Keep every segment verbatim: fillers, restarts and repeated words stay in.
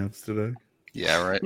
Cavs today. Yeah, right.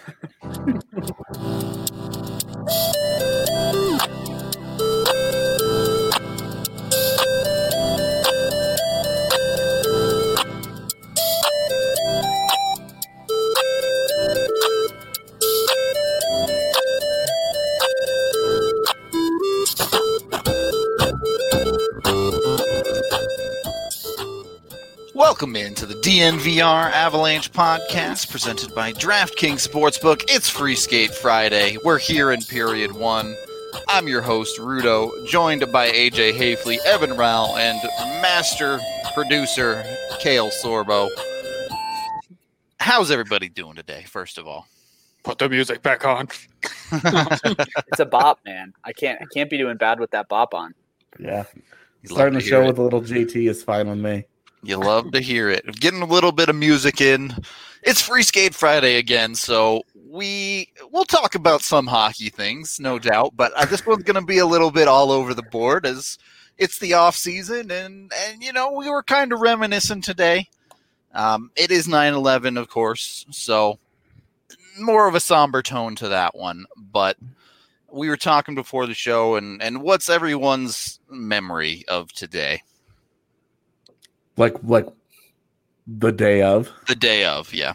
Welcome into the D N V R Avalanche podcast presented by DraftKings Sportsbook. It's Free Skate Friday. We're here in period one. I'm your host, Rudo, joined by A J Hafley, Evan Rao, and master producer, Kale Sorbo. How's everybody doing today, first of all? Put the music back on. It's a bop, man. I can't I can't be doing bad with that bop on. Yeah. You Starting love the to show hear with a little J T is fine with me. You love to hear it. Getting a little bit of music in. It's Free Skate Friday again, so we we'll talk about some hockey things, no doubt. But uh, this one's going to be a little bit all over the board as it's the off season, and and you know we were kind of reminiscent today. Um, it is nine eleven, of course, so more of a somber tone to that one. But we were talking before the show, and and what's everyone's memory of today? Like like the day of. The day of, yeah.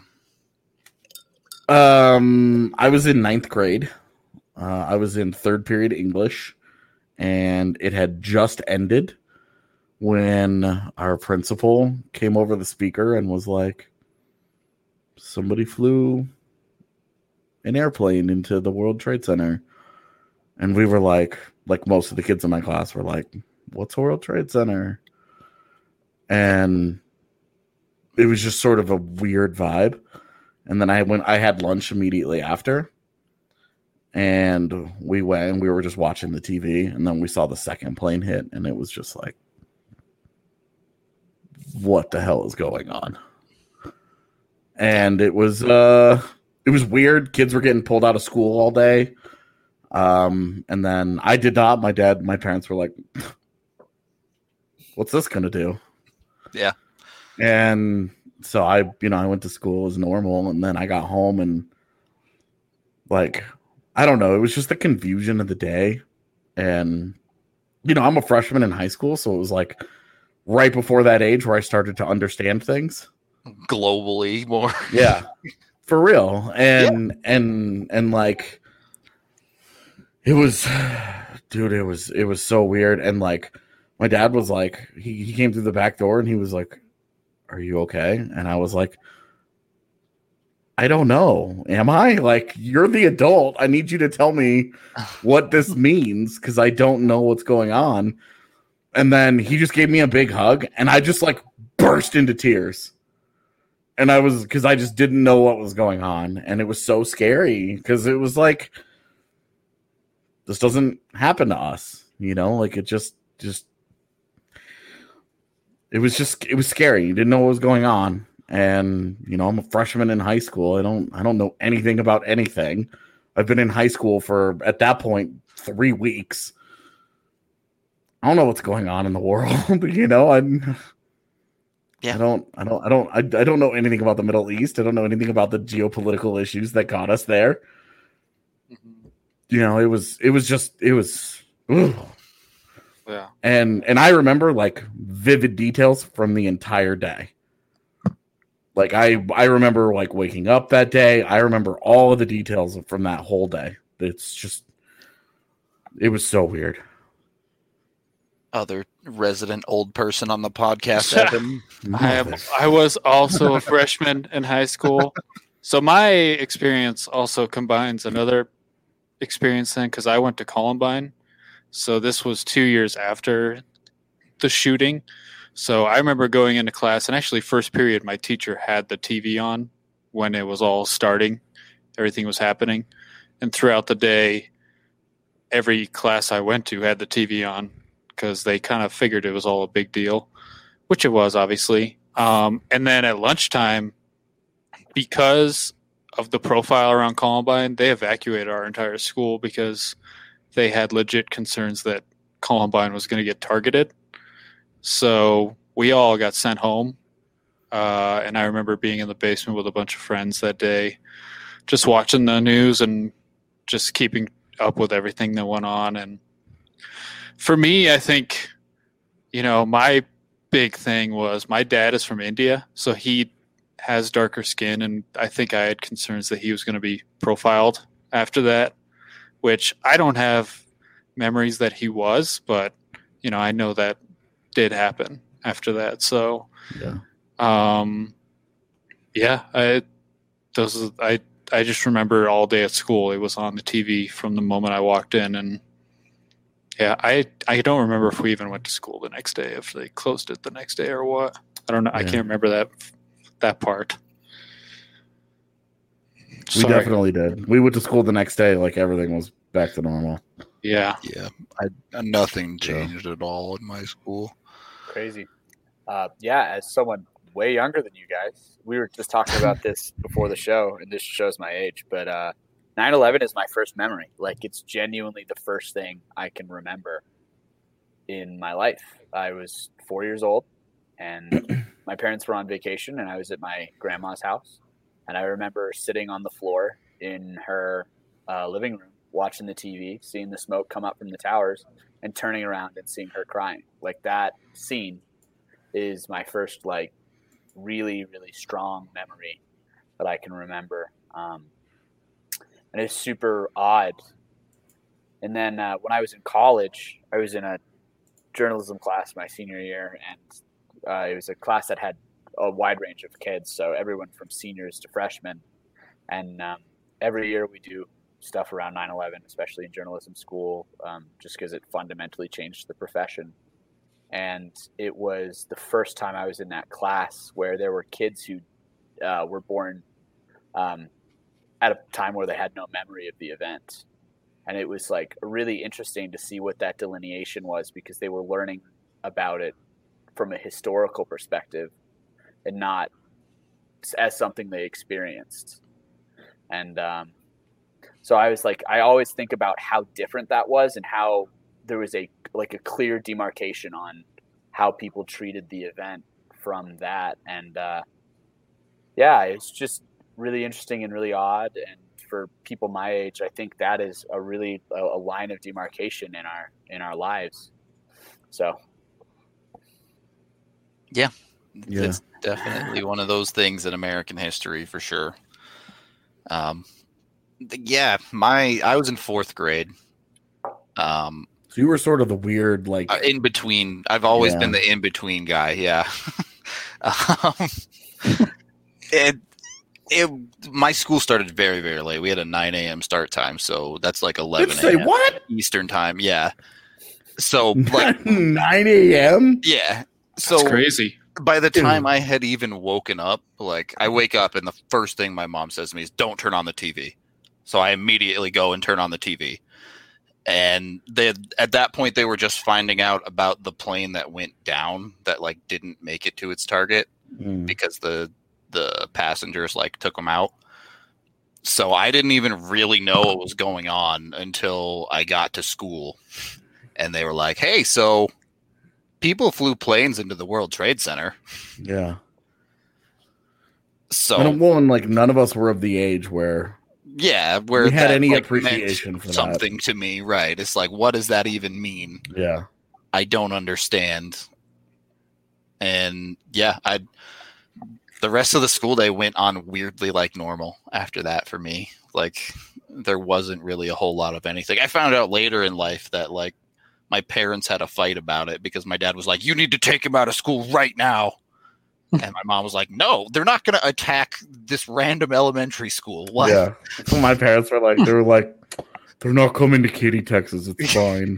Um, I was in ninth grade. Uh, I was in third period English, and it had just ended when our principal came over the speaker and was like, somebody flew an airplane into the World Trade Center. And we were like, like most of the kids in my class were like, what's a World Trade Center? And it was just sort of a weird vibe. And then I went, I had lunch immediately after. And we went and we were just watching the T V. And then we saw the second plane hit. And it was just like, what the hell is going on? And it was, uh, it was weird. Kids were getting pulled out of school all day. Um, and then I did not. My dad, my parents were like, what's this going to do? Yeah. And so I, you know, I went to school as normal, and then I got home and like, I don't know, it was just the confusion of the day. And, you know, I'm a freshman in high school, so it was like right before that age where I started to understand things. Globally more. Yeah. For real. And, yeah. and, and like, it was, dude, it was, it was so weird. And like, my dad was like, he, he came through the back door and he was like, are you okay? And I was like, I don't know. Am I? Like, you're the adult. I need you to tell me what this means because I don't know what's going on. And then he just gave me a big hug and I just like burst into tears. And I was, because I just didn't know what was going on. And it was so scary because it was like, this doesn't happen to us, you know, like it just, just, It was just, it was scary. You didn't know what was going on. And, you know, I'm a freshman in high school. I don't, I don't know anything about anything. I've been in high school for, at that point, three weeks. I don't know what's going on in the world. You know, I'm, yeah. I don't, I don't, I don't, I, I don't know anything about the Middle East. I don't know anything about the geopolitical issues that got us there. Mm-hmm. You know, it was, it was just, it was, ugh. Yeah. And and I remember like vivid details from the entire day. Like I I remember like waking up that day. I remember all of the details from that whole day. It's just it was so weird. Other resident old person on the podcast, Evan. I am, I was also a freshman in high school. So my experience also combines another experience then because I went to Columbine. So this was two years after the shooting. So I remember going into class, and actually first period, my teacher had the T V on when it was all starting. Everything was happening. And throughout the day, every class I went to had the T V on because they kind of figured it was all a big deal, which it was, obviously. Um, and then at lunchtime, because of the profile around Columbine, they evacuated our entire school because they had legit concerns that Columbine was going to get targeted. So we all got sent home. Uh, and I remember being in the basement with a bunch of friends that day, just watching the news and just keeping up with everything that went on. And for me, I think, you know, my big thing was my dad is from India, so he has darker skin, and I think I had concerns that he was going to be profiled after that, which I don't have memories that he was, but, you know, I know that did happen after that. So, Yeah. um, yeah, I, those, I, I just remember all day at school, it was on the T V from the moment I walked in. And yeah, I, I don't remember if we even went to school the next day, if they closed it the next day or what. I don't know. Yeah. I can't remember that, that part. We Sorry. definitely did. We went to school the next day, like everything was back to normal. Yeah. Yeah, I, nothing changed at all in my school. Crazy. Uh, yeah, as someone way younger than you guys, we were just talking about this before the show, and this shows my age, but uh, nine eleven is my first memory. Like, it's genuinely the first thing I can remember in my life. I was four years old, and my parents were on vacation, and I was at my grandma's house. And I remember sitting on the floor in her uh, living room, watching the T V, seeing the smoke come up from the towers, and turning around and seeing her crying. Like, that scene is my first, like, really, really strong memory that I can remember. Um, and it's super odd. And then uh, when I was in college, I was in a journalism class my senior year, and uh, it was a class that had a wide range of kids, so everyone from seniors to freshmen. And um, every year we do stuff around nine eleven, especially in journalism school, um, just because it fundamentally changed the profession. And it was the first time I was in that class where there were kids who uh, were born um, at a time where they had no memory of the event. And it was like really interesting to see what that delineation was, because they were learning about it from a historical perspective and not as something they experienced. And um, so I was like, I always think about how different that was, and how there was a like a clear demarcation on how people treated the event from that. And uh, yeah, it's just really interesting and really odd. And for people my age, I think that is a really a, a line of demarcation in our in our lives. So Yeah. Yeah. It's definitely one of those things in American history for sure. Um, yeah, my I was in fourth grade. Um, So you were sort of the weird, like uh, in between. I've always Yeah. been the in between guy. Yeah. um, it it my school started very very late. We had a nine a.m. start time, so that's like Did eleven you say a.m. what? Eastern time. Yeah. So like nine a.m. yeah. That's So crazy. by the time Dude. I had even woken up, like I wake up and the first thing my mom says to me is, "Don't turn on the T V." So I immediately go and turn on the T V. And they at that point they were just finding out about the plane that went down that like didn't make it to its target Mm. because the the passengers like took them out. So I didn't even really know what was going on until I got to school, and they were like, "Hey, so people flew planes into the World Trade Center." Yeah. So And, well, and like none of us were of the age where yeah, where we had that, any like, appreciation meant for that. something to me, right? It's like, what does that even mean? Yeah. I don't understand. And yeah, I the rest of the school day went on weirdly like normal after that for me. Like there wasn't really a whole lot of anything. I found out later in life that like my parents had a fight about it because my dad was like, "You need to take him out of school right now." And my mom was like, "No, they're not going to attack this random elementary school." What? Yeah. So my parents were like, they were like, they're not coming to Katy, Texas. It's fine.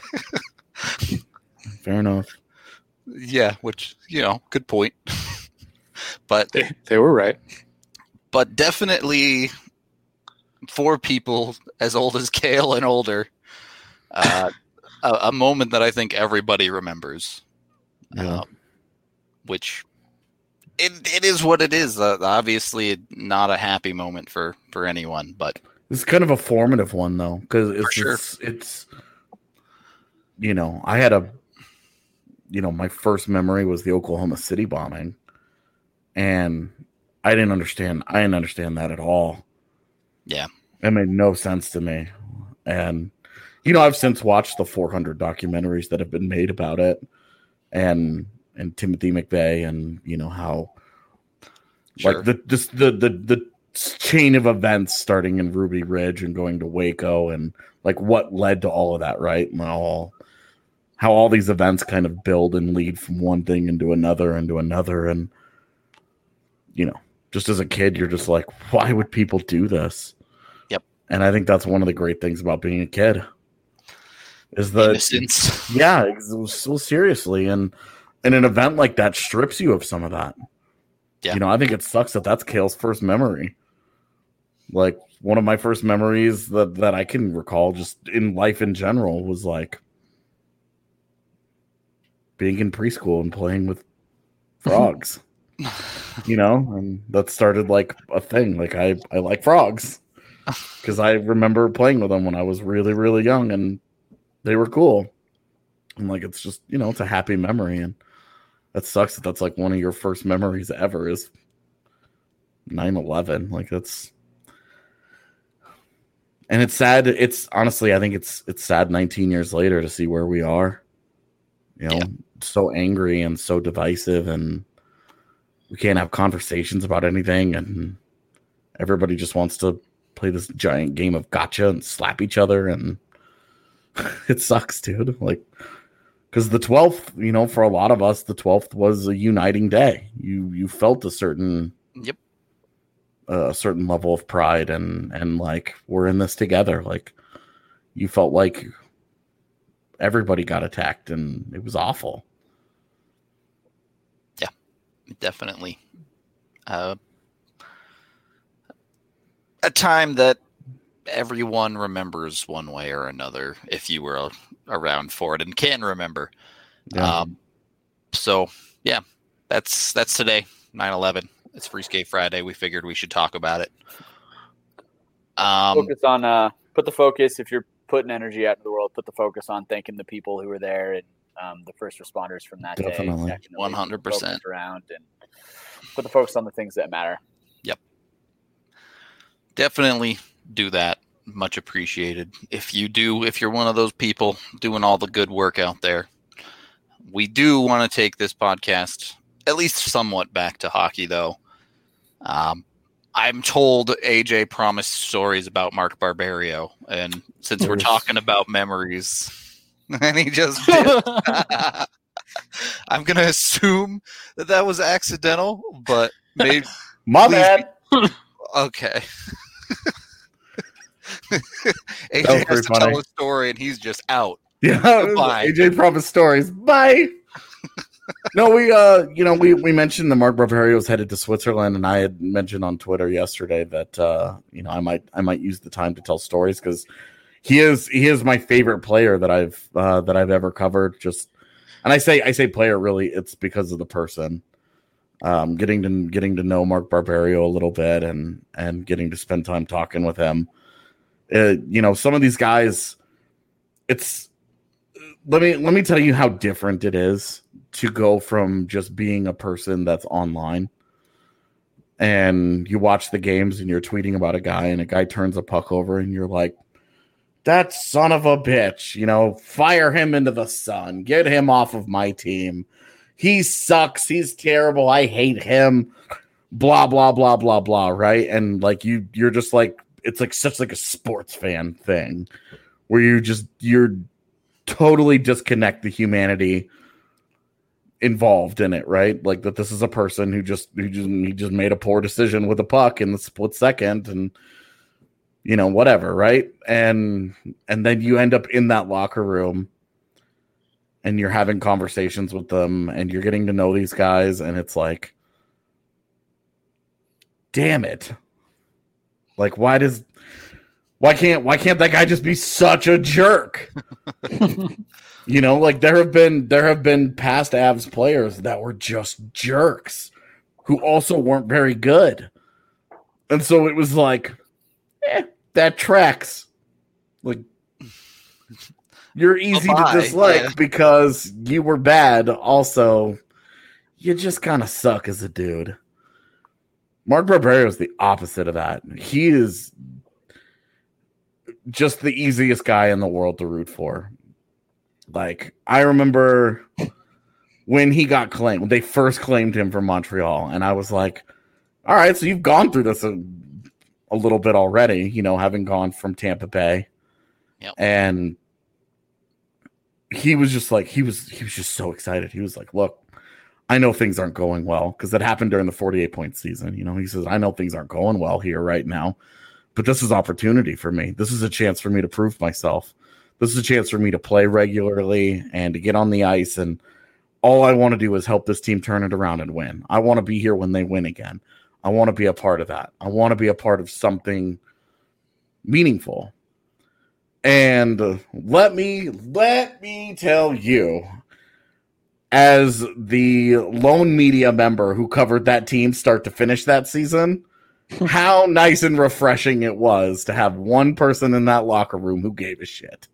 Fair enough. Yeah, which, you know, good point. But They, they were right. but definitely for people as old as Kale and older, uh, a, a moment that I think everybody remembers, Yeah. um, which it it is what it is. Uh, obviously, not a happy moment for, for anyone, but It's kind of a formative one though, because it's, sure. it's it's you know, I had a you know, my first memory was the Oklahoma City bombing. And I didn't understand. I didn't understand that at all. Yeah. It made no sense to me. And, you know, I've since watched the four hundred documentaries that have been made about it. And and Timothy McVeigh and, you know, how Sure. like the just the, the the chain of events starting in Ruby Ridge and going to Waco and like what led to all of that, right? And all how all these events kind of build and lead from one thing into another into another. And, you know, just as a kid, you're just like, why would people do this? Yep. And I think that's one of the great things about being a kid is the innocence. Yeah, so seriously. And and an event like that strips you of some of that. Yeah. You know, I think it sucks that that's Kale's first memory. Like one of my first memories that, that I can recall just in life in general was like being in preschool and playing with frogs. You know, and that started like a thing. Like I, I like frogs because I remember playing with them when I was really, really young and they were cool. And like, it's just, you know, it's a happy memory. And that sucks that that's like one of your first memories ever is nine eleven. Like that's, and it's sad. It's honestly, I think it's, it's sad nineteen years later to see where we are, you know, yeah. so angry and so divisive and we can't have conversations about anything, and everybody just wants to play this giant game of gotcha and slap each other, and it sucks, dude. Like, because the twelfth, you know, for a lot of us, the twelfth was a uniting day. You you felt a certain yep, uh, a certain level of pride, and and like we're in this together. Like, you felt like everybody got attacked, and it was awful. Definitely. Uh, a time that everyone remembers one way or another if you were around for it and can remember. Yeah. Um, so, yeah, that's that's today, nine eleven. It's Free Skate Friday. We figured we should talk about it. Um, focus on, uh, put the focus, if you're putting energy out into the world, put the focus on thanking the people who were there and Um, the first responders from that Definitely. day. one hundred percent. Around and put the focus on the things that matter. Yep. Definitely do that. Much appreciated. If you do, if you're one of those people doing all the good work out there, we do want to take this podcast at least somewhat back to hockey, though. Um, I'm told A J promised stories about Mark Barberio, and since we're talking about memories... And he just did. I'm going to assume that that was accidental, but maybe. My bad. Be... Okay. A J has to funny. tell a story, and he's just out. Yeah. A J promised stories. Bye. No, we, uh, you know, we, we mentioned that Mark Barberio was headed to Switzerland, and I had mentioned on Twitter yesterday that, uh, you know, I might, I might use the time to tell stories because. He is he is my favorite player that I've uh, that I've ever covered. Just and I say I say player really it's because of the person. Um, getting to getting to know Mark Barberio a little bit and and getting to spend time talking with him. Uh, you know, some of these guys. It's let me let me tell you how different it is to go from just being a person that's online. And you watch the games and you're tweeting about a guy and a guy turns a puck over and you're like. That son of a bitch, you know, fire him into the sun. Get him off of my team. He sucks. He's terrible. I hate him. Blah, blah, blah, blah, blah, right? And like you, you're just like, it's like such like a sports fan thing where you just, you're totally disconnect the humanity involved in it, right? Like that this is a person who just, who just, he just made a poor decision with a puck in the split second and you know, whatever, right? And and then you end up in that locker room and you're having conversations with them and you're getting to know these guys and it's like, damn it. Like, why does why can't why can't that guy just be such a jerk? You know, like there have been there have been past Avs players that were just jerks who also weren't very good. And so it was like Eh, that tracks. Like you're easy Bye-bye. to dislike yeah. because you were bad. Also, you just kind of suck as a dude. Mark Barberio is the opposite of that. He is just the easiest guy in the world to root for. Like, I remember when he got claimed, when they first claimed him from Montreal, and I was like, all right, so you've gone through this a, a little bit already, you know, having gone from Tampa Bay. Yep. And he was just like, he was, he was just so excited. He was like, look, I know things aren't going well, because that happened during the forty-eight point season. You know, he says, I know things aren't going well here right now, but this is opportunity for me. This is a chance for me to prove myself. This is a chance for me to play regularly and to get on the ice. And all I want to do is help this team turn it around and win. I want to be here when they win again. I want to be a part of that. I want to be a part of something meaningful. And uh, let me, let me tell you, as the lone media member who covered that team start to finish that season, how nice and refreshing it was to have one person in that locker room who gave a shit.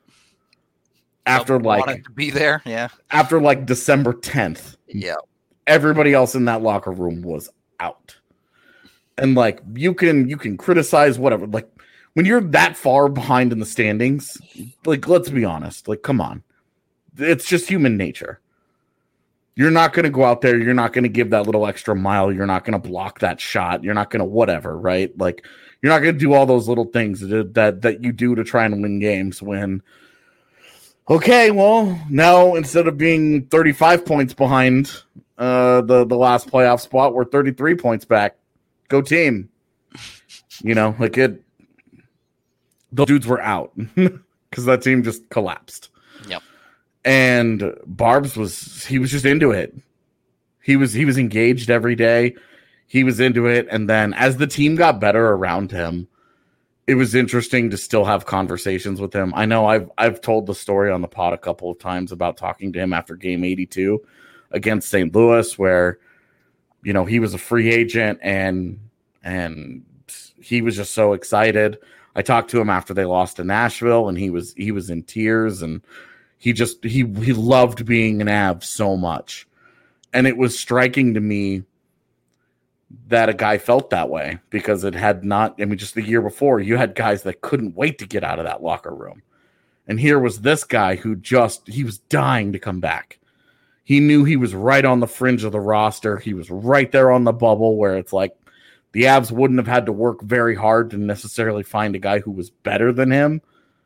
After Someone like wanted to be there, yeah. After like December tenth, Yeah. everybody else in that locker room was out. And like you can you can criticize whatever. Like when you're that far behind in the standings, like let's be honest, like come on. It's just human nature. You're not going to go out there. You're not going to give that little extra mile. You're not going to block that shot. You're not going to whatever, right? Like you're not going to do all those little things that, that that you do to try and win games when, okay, well, now instead of being thirty-five points behind uh, the, the last playoff spot, we're thirty-three points back. Go team. You know, like it, those dudes were out because that team just collapsed. Yep. And Barbs was, he was just into it. He was, he was engaged every day. He was into it. And then as the team got better around him, it was interesting to still have conversations with him. I know I've, I've told the story on the pod a couple of times about talking to him after game eighty-two against Saint Louis, where, you know, he was a free agent and, and he was just so excited. I talked to him after they lost to Nashville and he was, he was in tears and, He just, he he loved being an Av so much. And it was striking to me that a guy felt that way because it had not, I mean, just the year before, you had guys that couldn't wait to get out of that locker room. And here was this guy who just, he was dying to come back. He knew he was right on the fringe of the roster. He was right there on the bubble where it's like the Avs wouldn't have had to work very hard to necessarily find a guy who was better than him.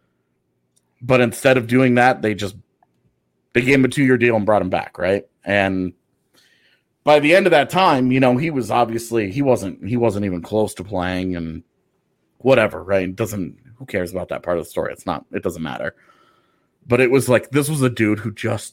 But instead of doing that, they just they gave him a two-year deal and brought him back, right? And by the end of that time, you know, he was obviously he wasn't he wasn't even close to playing and whatever, right? It doesn't who cares about that part of the story? It's not it doesn't matter. But it was like this was a dude who just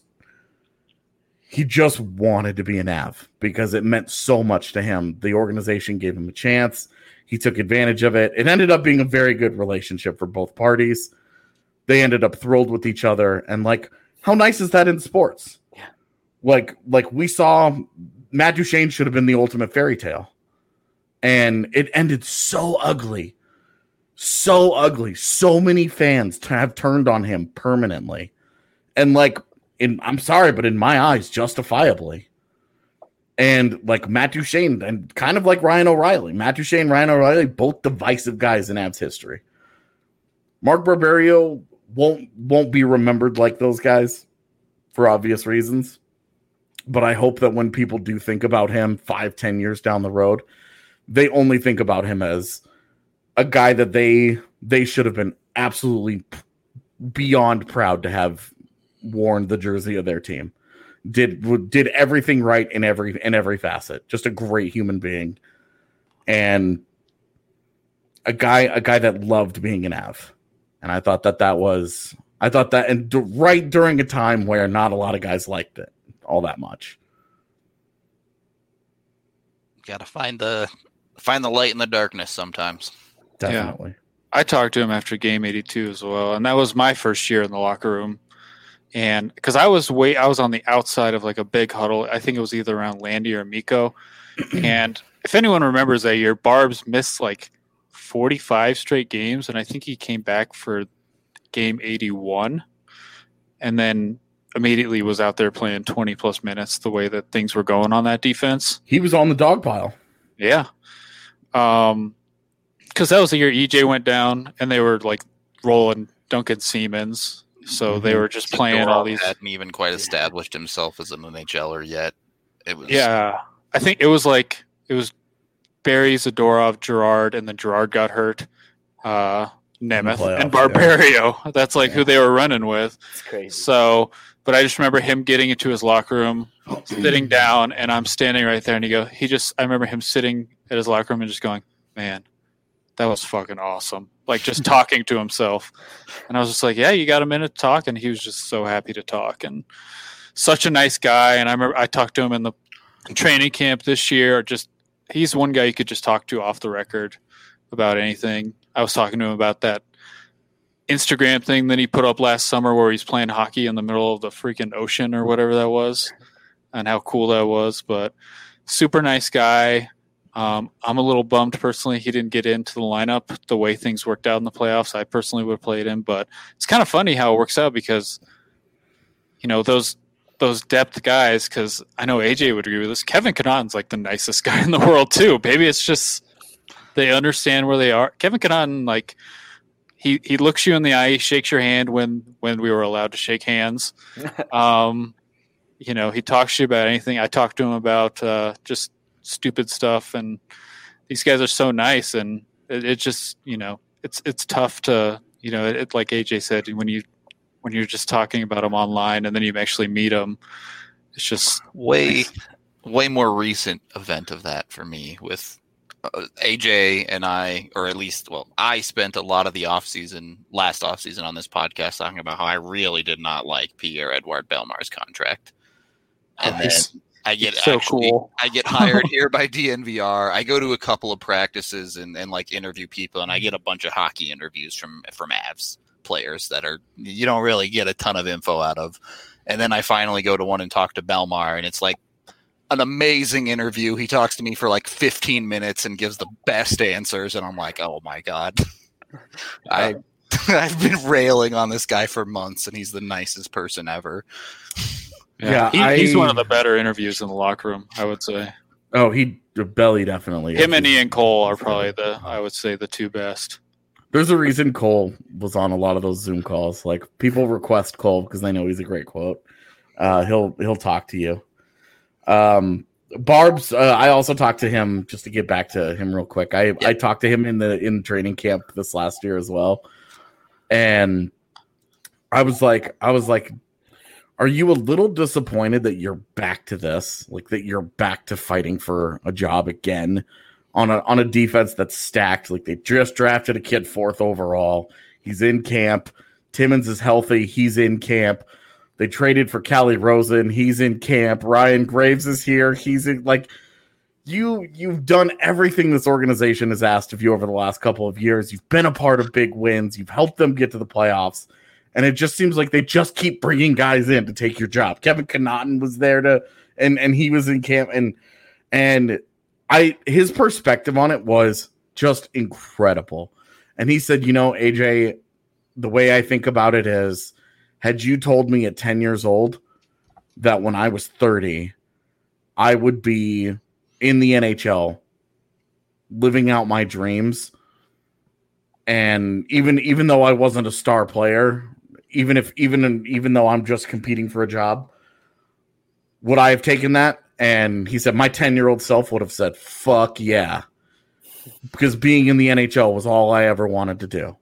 he just wanted to be an Av because it meant so much to him. The organization gave him a chance. He took advantage of it. It ended up being a very good relationship for both parties. They ended up thrilled with each other. And like, how nice is that in sports? Yeah. Like, like we saw Matt Duchene should have been the ultimate fairy tale. And it ended so ugly. So ugly. So many fans t- have turned on him permanently. And like, in I'm sorry, but in my eyes, justifiably. And like Matt Duchene, and kind of like Ryan O'Reilly. Matt Duchene, Ryan O'Reilly, both divisive guys in Avs history. Mark Barberio won't won't be remembered like those guys for obvious reasons. But I hope that when people do think about him five, ten years down the road, they only think about him as a guy that they they should have been absolutely beyond proud to have worn the jersey of their team. Did did everything right in every in every facet. Just a great human being. And a guy a guy that loved being an Av. And I thought that that was, I thought that, and d- right during a time where not a lot of guys liked it all that much. Got to find the find the light in the darkness sometimes. Definitely. Yeah. I talked to him after game eighty-two as well, and that was my first year in the locker room. And because I was way, I was on the outside of like a big huddle. I think it was either around Landy or Miko. And if anyone remembers that year, Barbs missed like forty-five straight games, and I think he came back for game eighty-one and then immediately was out there playing twenty plus minutes the way that things were going on that defense. He was on the dog pile. Yeah. Um, because that was the year E J went down, and they were like rolling Duncan Siemens, so mm-hmm. they were just playing all these. Hadn't even quite established himself as an N H L er yet. It was yeah. I think it was like it was Barry, Zadorov, Gerard, and then Gerard got hurt. Uh, Nemeth playoffs, and Barbario. Yeah. That's like yeah. who they were running with. It's crazy. So, but I just remember him getting into his locker room, sitting down, and I'm standing right there, and he go. He just. I remember him sitting at his locker room and just going, "Man, that was fucking awesome." Like just talking to himself, and I was just like, "Yeah, you got a minute to talk," and he was just so happy to talk and such a nice guy. And I remember I talked to him in the training camp this year. Just he's one guy you could just talk to off the record about anything. I was talking to him about that Instagram thing that he put up last summer where he's playing hockey in the middle of the freaking ocean or whatever that was, and how cool that was. But super nice guy. Um, I'm a little bummed personally he didn't get into the lineup the way things worked out in the playoffs. I personally would have played him, but it's kind of funny how it works out because, you know, those those depth guys, because I know A J would agree with this, Kevin Connauton's like the nicest guy in the world too. Maybe it's just they understand where they are. Kevin Connauton, like, he, he looks you in the eye, he shakes your hand when, when we were allowed to shake hands. Um, you know, he talks to you about anything. I talked to him about uh, just stupid stuff, and these guys are so nice, and it, it just, you know, it's it's tough to, you know, it, it, like A J said, when you when you're just talking about them online and then you actually meet them, it's just way nice. Way more recent event of that for me with uh, A J and I, or at least, well, I spent a lot of the off season, last off season on this podcast talking about how I really did not like Pierre-Edouard Bellemar's contract, and oh, then I get so actually, cool. I get hired here by D N V R. I go to a couple of practices and, and like interview people, and I get a bunch of hockey interviews from from Avs players that are you don't really get a ton of info out of. And then I finally go to one and talk to Bellemar, and it's like an amazing interview. He talks to me for like fifteen minutes and gives the best answers, and I'm like, oh my god, I I've been railing on this guy for months, and he's the nicest person ever. Yeah, yeah he, I, he's one of the better interviews in the locker room, I would say. Oh, he Belly definitely. Him and Ian Cole are probably the, I would say, the two best. There's a reason Cole was on a lot of those Zoom calls. Like people request Cole because they know he's a great quote. Uh, he'll he'll talk to you. Um, Barb's. Uh, I also talked to him just to get back to him real quick. I, yeah. I talked to him in the in training camp this last year as well, and I was like, I was like. Are you a little disappointed that you're back to this? Like that you're back to fighting for a job again on a on a defense that's stacked? Like they just drafted a kid fourth overall. He's in camp. Timmins is healthy. He's in camp. They traded for Callie Rosen. He's in camp. Ryan Graves is here. He's in, like you you've done everything this organization has asked of you over the last couple of years. You've been a part of big wins. You've helped them get to the playoffs. And it just seems like they just keep bringing guys in to take your job. Kevin Connauton was there to, and and he was in camp, and and I his perspective on it was just incredible. And he said, you know, A J, the way I think about it is, had you told me at ten years old that when I was thirty, I would be in the N H L, living out my dreams, and even even though I wasn't a star player. Even if, even, even though I'm just competing for a job, would I have taken that? And he said, my ten year old self would have said, fuck yeah. Because being in the N H L was all I ever wanted to do.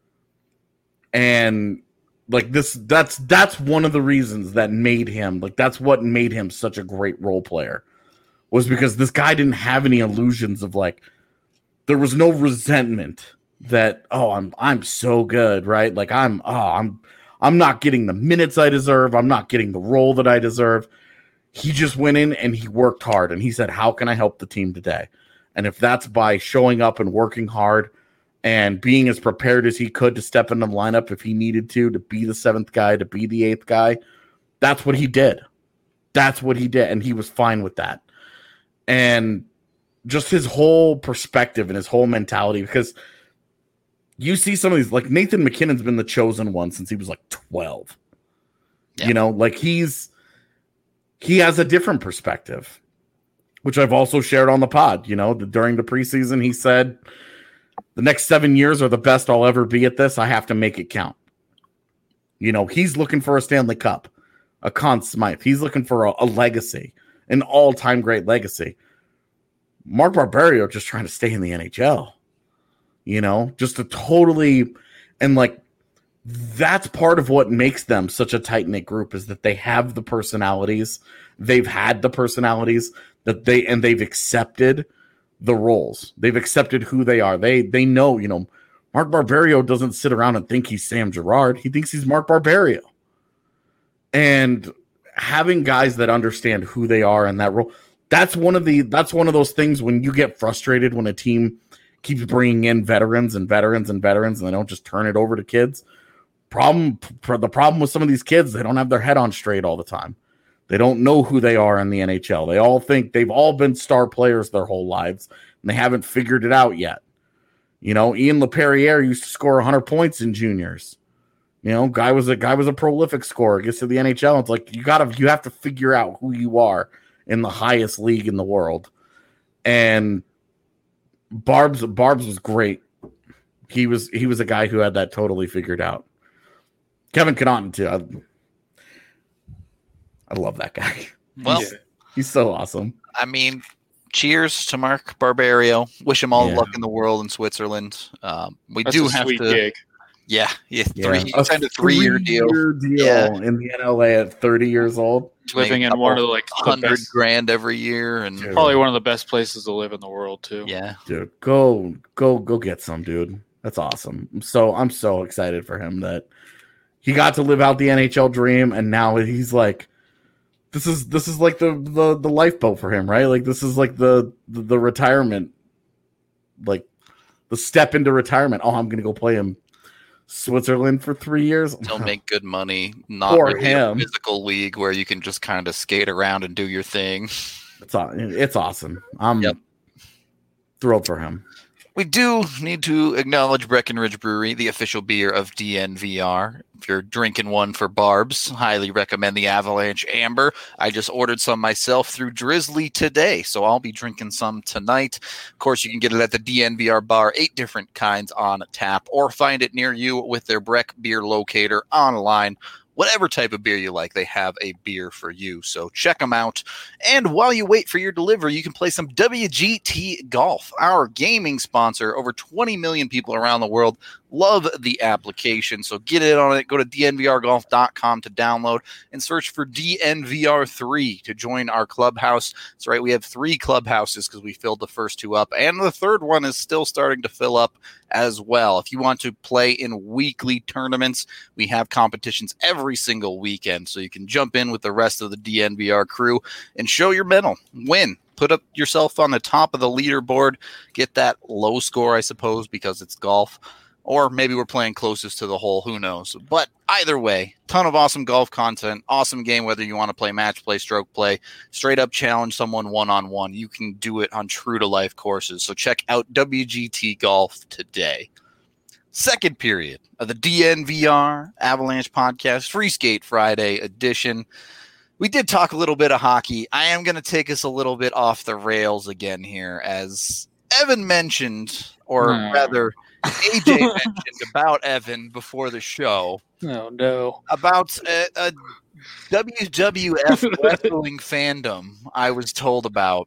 And like this, that's, that's one of the reasons that made him, like, that's what made him such a great role player, was because this guy didn't have any illusions of like, there was no resentment that, oh, I'm, I'm so good, right? Like I'm, oh, I'm, I'm not getting the minutes I deserve. I'm not getting the role that I deserve. He just went in and he worked hard. And he said, how can I help the team today? And if that's by showing up and working hard and being as prepared as he could to step in the lineup if he needed to, to be the seventh guy, to be the eighth guy, that's what he did. That's what he did. And he was fine with that. And just his whole perspective and his whole mentality, because you see some of these, like Nathan McKinnon's been the chosen one since he was like twelve. Yeah. You know, like he's, he has a different perspective. which I've also shared on the pod. You know, the, during the preseason, he said, the next seven years are the best I'll ever be at this. I have to make it count. You know, he's looking for a Stanley Cup, a Conn Smythe. He's looking for a, a legacy, an all-time great legacy. Mark Barberio just trying to stay in the N H L. You know, just a totally, and like, that's part of what makes them such a tight-knit group is that they have the personalities. They've had the personalities that they, and they've accepted the roles. They've accepted who they are. They, they know, you know, Mark Barberio doesn't sit around and think he's Sam Girard. He thinks he's Mark Barberio. And having guys that understand who they are in that role, that's one of the, that's one of those things when you get frustrated when a team keeps bringing in veterans and veterans and veterans and they don't just turn it over to kids. Problem, the problem with some of these kids, they don't have their head on straight all the time. They don't know who they are in the N H L. They all think they've all been star players their whole lives, and they haven't figured it out yet. You know, Ian LePerriere used to score one hundred points in juniors. You know, guy was a guy was a prolific scorer. Gets to the N H L, it's like you gotta you have to figure out who you are in the highest league in the world. And Barb's Barb's was great. He was he was a guy who had that totally figured out. Kevin Connaughton too. I, I love that guy. Well, he's, he's so awesome. I mean, cheers to Mark Barberio. Wish him all Yeah. the luck in the world in Switzerland. Um, we That's do a have sweet to. gig. Yeah, yeah, Yeah. three. He signed a three-year deal. three-year deal Yeah. in the N L A at thirty years old. Living in one of the like the hundred best, grand every year, and Dude. probably one of the best places to live in the world too. yeah, Dude, go go go get some, dude. That's awesome. I'm so I'm so excited for him that he got to live out the N H L dream, and now he's like, this is this is like the the the lifeboat for him, right? Like this is like the the, the retirement, like the step into retirement. Oh, I'm gonna go play in Switzerland for three years. he'll make good money. Not For really him. a physical league where you can just kind of skate around and do your thing. It's aw- it's awesome. I'm Yep. thrilled for him. We do need to acknowledge Breckenridge Brewery, the official beer of D N V R. If you're drinking one for Barb's, highly recommend the Avalanche Amber. I just ordered some myself through Drizzly today, so I'll be drinking some tonight. Of course, you can get it at the D N V R bar, eight different kinds on tap, or find it near you with their Breck Beer Locator online. Whatever type of beer you like, they have a beer for you. So check them out. And while you wait for your delivery, you can play some W G T Golf, our gaming sponsor. Over twenty million people around the world love the application. So get in on it. Go to D N V R golf dot com to download and search for D N V R three to join our clubhouse. That's right. We have three clubhouses because we filled the first two up. And the third one is still starting to fill up as well. If you want to play in weekly tournaments, we have competitions every single weekend, so you can jump in with the rest of the D N V R crew and show your mettle, win, put up yourself on the top of the leaderboard, get that low score, I suppose, because it's golf, or maybe we're playing closest to the hole, who knows. But either way, ton of awesome golf content, awesome game, whether you want to play match play, stroke play, straight up challenge someone one-on-one. You can do it on true-to-life courses. So check out W G T Golf today. Second period of the D N V R Avalanche Podcast, Free Skate Friday edition. We did talk a little bit of hockey. I am going to take us a little bit off the rails again here, as Evan mentioned, or Hmm. rather, A J mentioned about Evan before the show, Oh no. about a, a W W F wrestling fandom I was told about.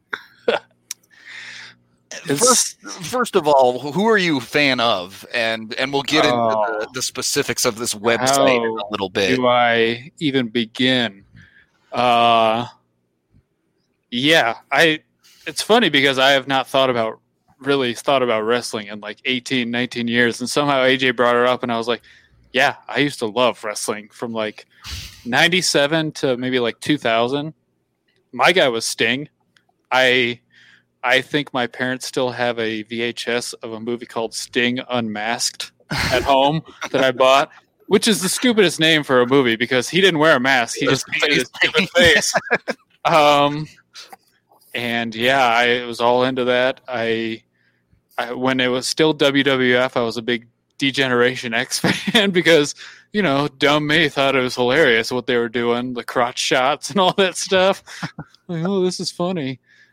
First, first of all, who are you a fan of? And and we'll get into Oh. the, the specifics of this website in How a little bit. Do I even begin? Uh, yeah, I. It's funny because I have not thought about really thought about wrestling in like eighteen, nineteen years, and somehow A J brought it up, and I was like, yeah, I used to love wrestling from like ninety-seven to maybe like two thousand. My guy was Sting. I. I think my parents still have a V H S of a movie called Sting Unmasked at home that I bought, which is the stupidest name for a movie because he didn't wear a mask. He just painted his stupid face. Um, and yeah, I was all into that. I, I when it was still W W F, I was a big D-Generation X fan because, you know, dumb me thought it was hilarious what they were doing, the crotch shots and all that stuff. Like, oh, this is funny.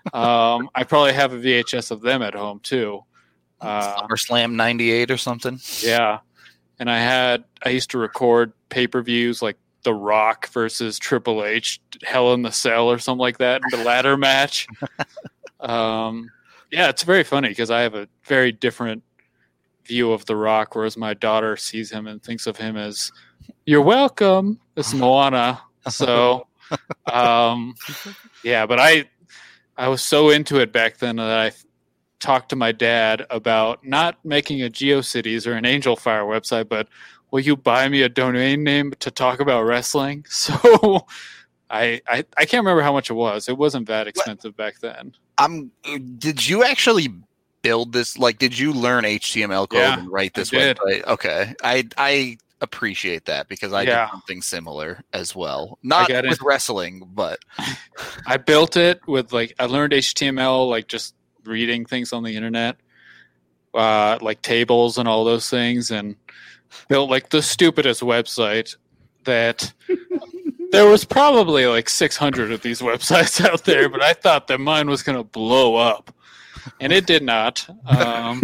Um, I probably have a V H S of them at home too. Uh, SummerSlam ninety-eight or something. yeah, and I had I used to record pay per views like The Rock versus Triple H, Hell in the Cell or something like that, the ladder match. Um, yeah, it's very funny because I have a very different view of The Rock, whereas my daughter sees him and thinks of him as "You're welcome." It's Moana, so um, yeah. But I I was so into it back then that I talked to my dad about not making a GeoCities or an Angel Fire website, but will you buy me a domain name to talk about wrestling? So I, I I can't remember how much it was. It wasn't that expensive back then. I'm. Did you actually build this? Like, did you learn H T M L code Yeah, and write this I did. website? Okay, I I appreciate that because I Yeah. did something similar as well. Not got it. with wrestling, but I built it with like I learned H T M L like just reading things on the internet, uh, like tables and all those things, and built like the stupidest website that there was probably like six hundred of these websites out there, but I thought that mine was going to blow up, and it did not. Um,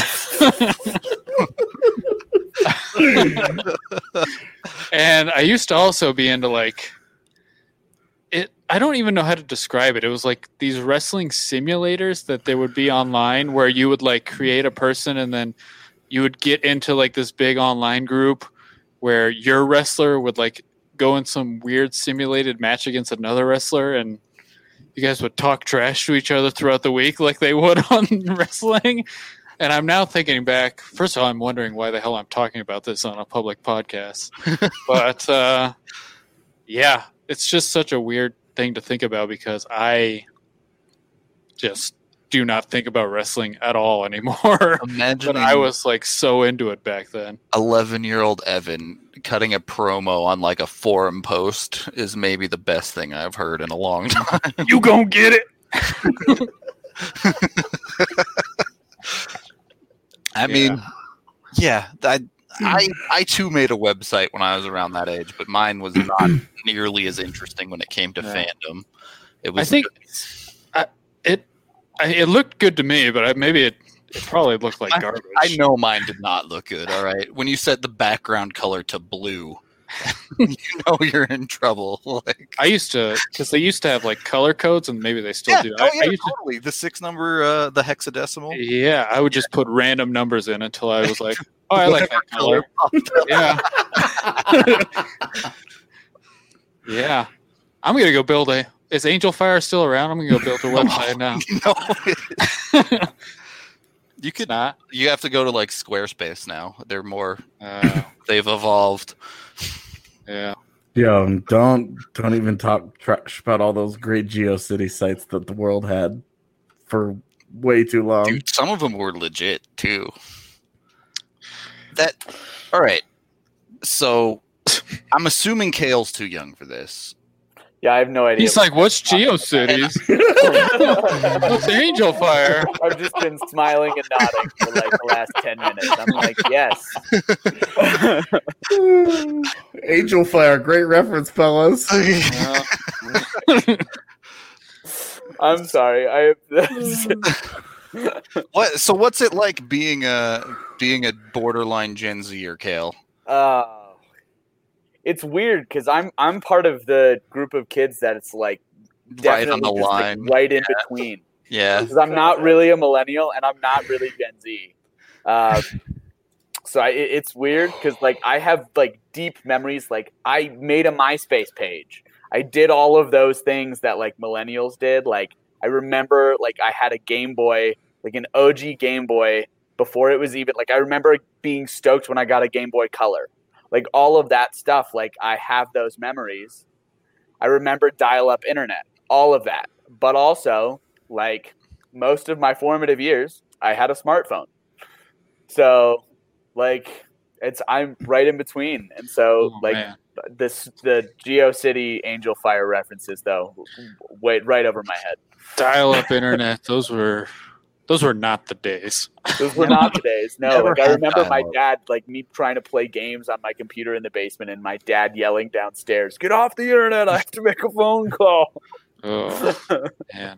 and I used to also be into like it. I don't even know how to describe it. It was like these wrestling simulators that there would be online where you would like create a person and then you would get into like this big online group where your wrestler would like go in some weird simulated match against another wrestler, and you guys would talk trash to each other throughout the week like they would on wrestling. And I'm now thinking back. First of all, I'm wondering why the hell I'm talking about this on a public podcast. But uh, yeah, it's just such a weird thing to think about because I just do not think about wrestling at all anymore. imagine But I was like so into it back then. eleven-year-old Evan cutting a promo on like a forum post is maybe the best thing I've heard in a long time. You gonna get it? I mean, yeah, I, I I too made a website when I was around that age, but mine was not nearly as interesting when it came to Yeah. fandom. It was I think I, it I, it looked good to me, but I, maybe it, it probably looked like I- garbage. I know mine did not look good. All right, when you set the background color to blue, you know you're in trouble. Like, I used to because they used to have like color codes, and maybe they still yeah, do. oh I, yeah, I used to, totally. The six number, uh, the hexadecimal. yeah, I would just put random numbers in until I was like, oh, I like that color. Yeah, yeah. I'm gonna go build a. Is Angel Fire still around? I'm gonna go build a website now. No, you It's could not. You have to go to like Squarespace now. They're more. Uh, They've evolved. yeah. Yo, don't don't even talk trash about all those great GeoCity sites that the world had for way too long. Dude, some of them were legit too. That. All right. So, I'm assuming Kale's too young for this. Yeah, I have no idea. He's like, what's GeoCities? What's Angel Fire? I've just been smiling and nodding for like the last ten minutes. I'm like, yes. Angel Fire, great reference, fellas. Yeah. I'm sorry. I What? So, what's it like being a being a borderline Gen Zer, Kale? uh, it's weird because I'm I'm part of the group of kids that it's like Right on definitely the just, like, line. right in between. Yeah. Because I'm not really a millennial and I'm not really Gen Z. Uh, so I, it- it's weird because like I have like deep memories. Like I made a MySpace page. I did all of those things that like millennials did. Like I remember like I had a Game Boy, like an O G Game Boy before it was even like I remember being stoked when I got a Game Boy Color. Like all of that stuff. Like I have those memories. I remember dial-up internet, all of that. But also, like most of my formative years, I had a smartphone. So, like, it's I'm right in between, and so Oh, like man. this the GeoCity Angel Fire references though, wait right over my head. Dial-up internet. Those were those were not the days. Those were not the days. No, Never like I had remember my dial-up. dad, like me trying to play games on my computer in the basement, and my dad yelling downstairs, "Get off the internet! I have to make a phone call." Oh man.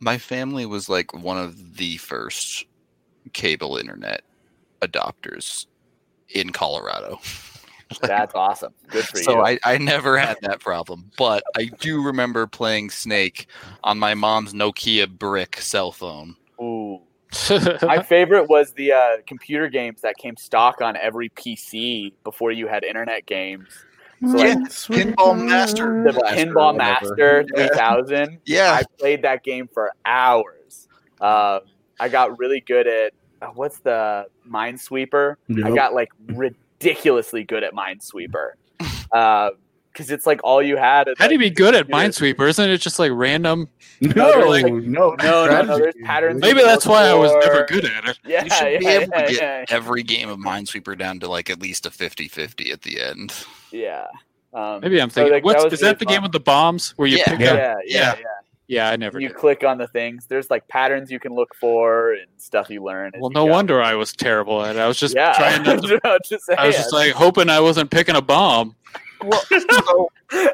My family was like one of the first cable internet adopters in Colorado. That's awesome. Good for So you. I, I never had that problem. But I do remember playing Snake on my mom's Nokia brick cell phone. Ooh. My favorite was the uh, computer games that came stock on every P C before you had internet games. So Yeah, like Pinball Master. the Blaster, Pinball whatever. Master three thousand. Yeah. I played that game for hours. Uh, I got really good at uh, what's the Minesweeper? I Yep. got like ridiculously good at Minesweeper because it's like all you had. How do you be good at Minesweeper? Isn't it just like random? No, No, no, like- no, No, no, no. strategy. There's patterns. Maybe you that's look why I was for. never good at it. Yeah, You should be yeah, able to yeah, get yeah. every game of Minesweeper down to like at least a fifty-fifty at the end. Yeah. Um, Maybe I'm so, thinking. like, what's was is that really the fun. game with the bombs where you Yeah. pick Yeah, up? yeah, yeah. Yeah. Yeah, I never You did. click on the things. There's like patterns you can look for and stuff you learn. as Well, you no go. wonder I was terrible at it. I was just yeah, trying not to. I was just, I was just like hoping I wasn't picking a bomb. Well, so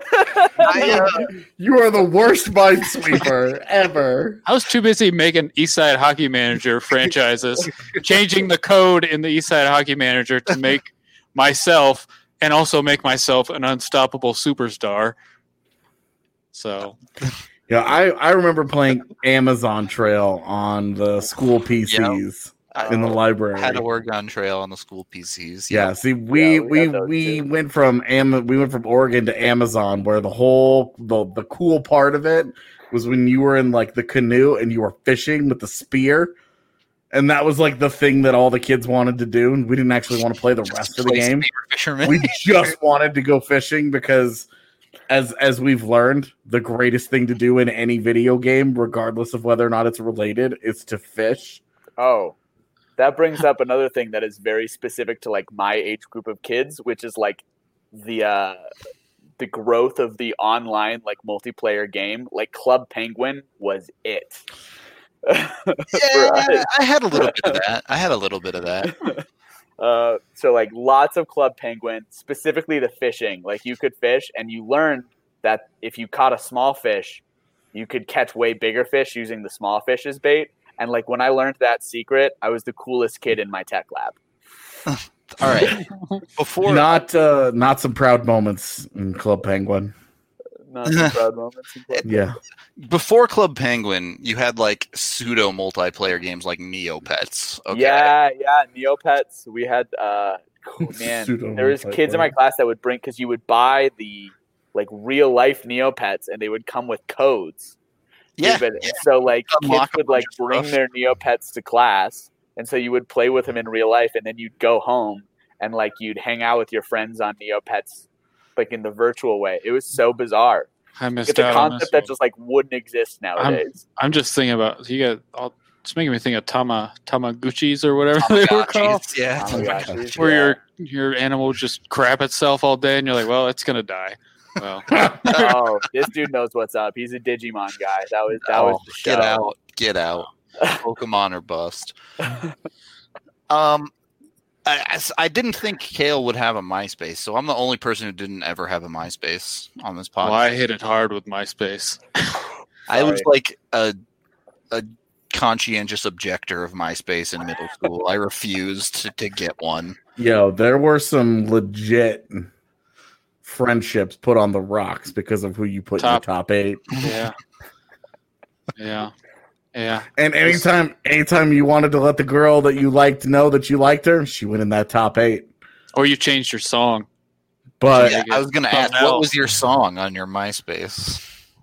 I, uh, You are the worst minesweeper ever. I was too busy making Eastside Hockey Manager franchises, changing the code in the Eastside Hockey Manager to make myself and also make myself an unstoppable superstar. So Yeah, I, I remember playing Amazon Trail on the school P Cs in the I library. had a Oregon Trail on the school P Cs. Yeah, see, we Yeah, we we had those we too. went from Am- we went from Oregon to Amazon, where the whole the the cool part of it was when you were in like the canoe and you were fishing with the spear, and that was like the thing that all the kids wanted to do. And we didn't actually want to play the rest of the Play game. Spear Fisherman. We just wanted to go fishing because, as as we've learned, the greatest thing to do in any video game, regardless of whether or not it's related, is to fish. Oh, that brings up another thing that is very specific to like my age group of kids, which is like the uh, the growth of the online like multiplayer game. Like Club Penguin was it. For us. Yeah, I had a little bit of that. I had a little bit of that. Uh, so like lots of Club Penguin, specifically the fishing. Like you could fish, and you learned that if you caught a small fish, you could catch way bigger fish using the small fish as bait. And like when I learned that secret, I was the coolest kid in my tech lab. All right. Before Not uh, not some proud moments in Club Penguin. Not some proud moments. in Club Yeah. before Club Penguin, you had like pseudo multiplayer games like Neopets. Okay. Yeah, yeah, Neopets. We had uh cool, man. Pseudo there was kids in my multiplayer. class that would bring because you would buy the like real life Neopets and they would come with codes. Yeah. But- So like Unlock kids a would like bunch of bring stuff. their Neopets to class, and so you would play with them in real life, and then you'd go home and like you'd hang out with your friends on Neopets, like in the virtual way. It was so bizarre. I missed It's a out on this concept that one. just like wouldn't exist nowadays. I'm just thinking about you got. All, it's making me think of Tama Tamaguchis or whatever they were called, Tamagotchis, Yeah. Oh my gosh, dude. where Yeah. your your animal would just crap itself all day, and you're like, well, it's gonna die. Well, Oh, this dude knows what's up. He's a Digimon guy. That was that was Oh, the show. get out. Get out. Pokemon or bust. Um, I, I s- I didn't think Kale would have a MySpace, so I'm the only person who didn't ever have a MySpace on this podcast. well, I hit it hard with MySpace. I was Sorry. like a a conscientious objector of MySpace in middle school. I refused to, to get one. Yo, there were some legit friendships put on the rocks because of who you put Top. in your top eight. Yeah, yeah, yeah. And anytime anytime you wanted to let the girl that you liked know that you liked her, she went in that top eight. Or you changed your song. But Yeah, I was going to Something ask, what else. was your song on your MySpace?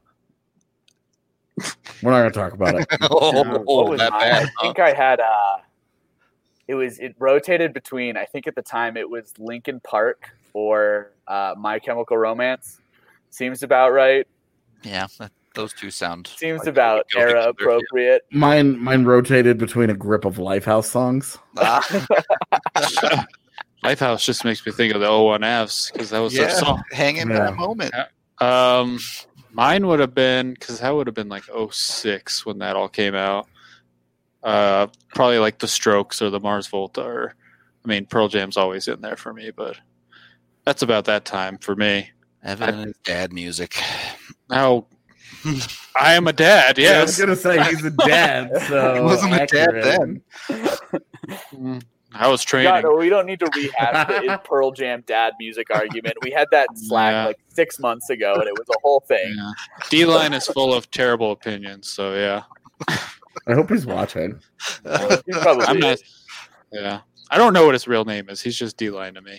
we're not gonna talk about it. oh, What was that mine? bad. I think I had uh it was it rotated between I think at the time it was Linkin Park or uh, My Chemical Romance. Seems about right. Yeah, that, those two sound. Seems like about they would go era together. appropriate. Mine mine rotated between a grip of Lifehouse songs. Ah, Lifehouse just makes me think of the oh one Fs because that was yeah, their song. hang in Yeah. that moment. Um, mine would have been because that would have been like oh six when that all came out. Uh, probably like the Strokes or the Mars Volta, or I mean Pearl Jam's always in there for me, but that's about that time for me. Evan and his dad music. How I am a dad. Yeah, I was Yes. gonna say he's a dad, so He wasn't a dad accurate. then. Mm, I was training. God, no, we don't need to rehash the Pearl Jam dad music argument. We had that in Slack Yeah. like six months ago, and it was a whole thing. Yeah. D-line is full of terrible opinions. So yeah, I hope he's watching. He probably I'm not. is. Yeah, I don't know what his real name is. He's just D-line to me.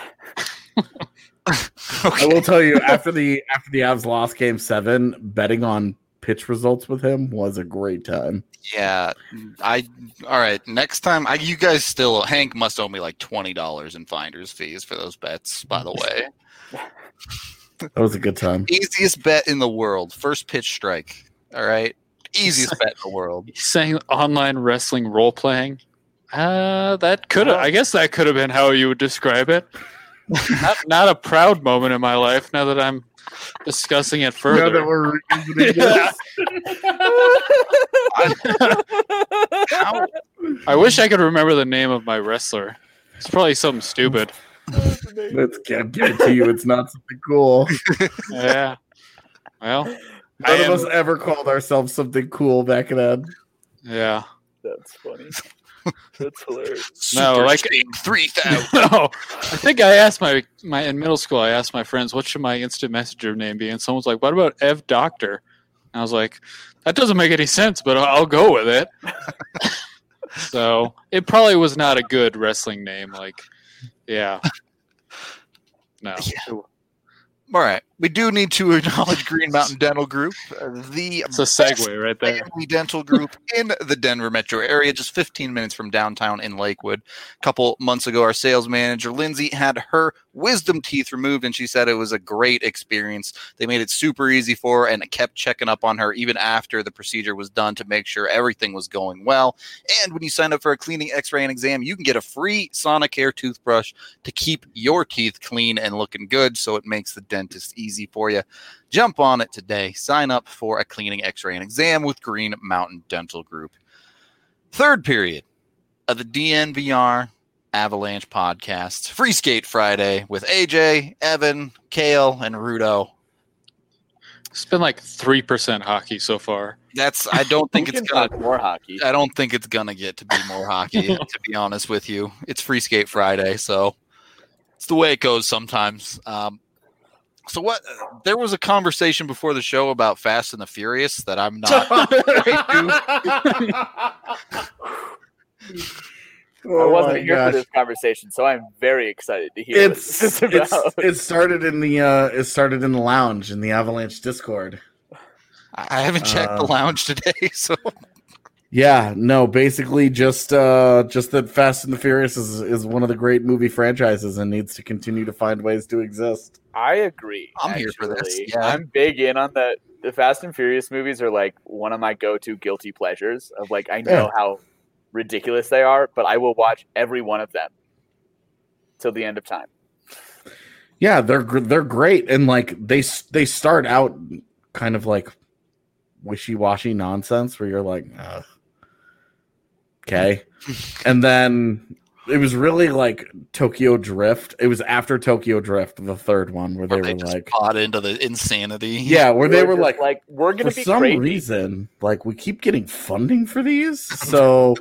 I will tell you after the after the Avs lost Game Seven, betting on pitch results with him was a great time. Yeah, I. All right, next time, I, you guys still. Hank must owe me like twenty dollars in finder's fees for those bets. By the way, That was a good time. easiest bet in the world, first pitch strike. All right, easiest bet in the world. He's saying online wrestling role playing. Uh, that could have. I guess that could have been how you would describe it. not, not a proud moment in my life. Now that I'm discussing it further. Now that we're revisiting Yeah. this. How, I wish I could remember the name of my wrestler. It's probably something stupid. Let's give it to you. It's not something cool. Yeah. Well, None I of am, us ever called ourselves something cool back then. yeah. That's funny. That's hilarious. No, Super like- Sting three thousand. No, I think I asked my my in middle school. I asked my friends, "What should my instant messenger name be?" And someone's like, "What about Ev Doctor?" And I was like, "That doesn't make any sense, but I'll I'll go with it." So it probably was not a good wrestling name. Like, yeah, no. All right, we do need to acknowledge Green Mountain Dental Group, uh, the It's a segue right there. family dental group in the Denver metro area, just fifteen minutes from downtown in Lakewood. A couple months ago, our sales manager, Lindsay, had her wisdom teeth removed, and she said it was a great experience. They made it super easy for her and kept checking up on her even after the procedure was done to make sure everything was going well. And when you sign up for a cleaning, x-ray, and exam, you can get a free Sonicare toothbrush to keep your teeth clean and looking good, so it makes the dentist easy for you. Jump on it today. Sign up for a cleaning, x-ray, and exam with Green Mountain Dental Group. Third period of the D N V R Avalanche podcast. Free Skate Friday with A J, Evan, Kale, and Rudo. It's been like three percent hockey so far. That's I don't think We it's can gonna talk more hockey. I don't think it's gonna get to be more hockey, to be honest with you. It's Free Skate Friday, so it's the way it goes sometimes. Um, so what? There was a conversation before the show about Fast and the Furious that I'm not. I Oh wasn't my here gosh. for this conversation, so I'm very excited to hear It's, what this is it's about. it started in the uh it started in the lounge in the Avalanche Discord. I haven't checked the Uh, lounge today, so Yeah, no, basically just uh just that Fast and the Furious is is one of the great movie franchises and needs to continue to find ways to exist. I agree. I'm here for this, actually. yeah. I'm big in on the the Fast and Furious movies are like one of my go-to guilty pleasures of like I know Yeah. how ridiculous they are, but I will watch every one of them till the end of time. Yeah, they're gr- they're great and like they s- they start out kind of like wishy-washy nonsense where you're like, Ugh. Okay. And then it was really like Tokyo Drift. It was after Tokyo Drift, the third one, where they where they were just like, bought into the insanity. yeah, where they We're were just like, we're gonna for be some crazy. reason, like we keep getting funding for these, so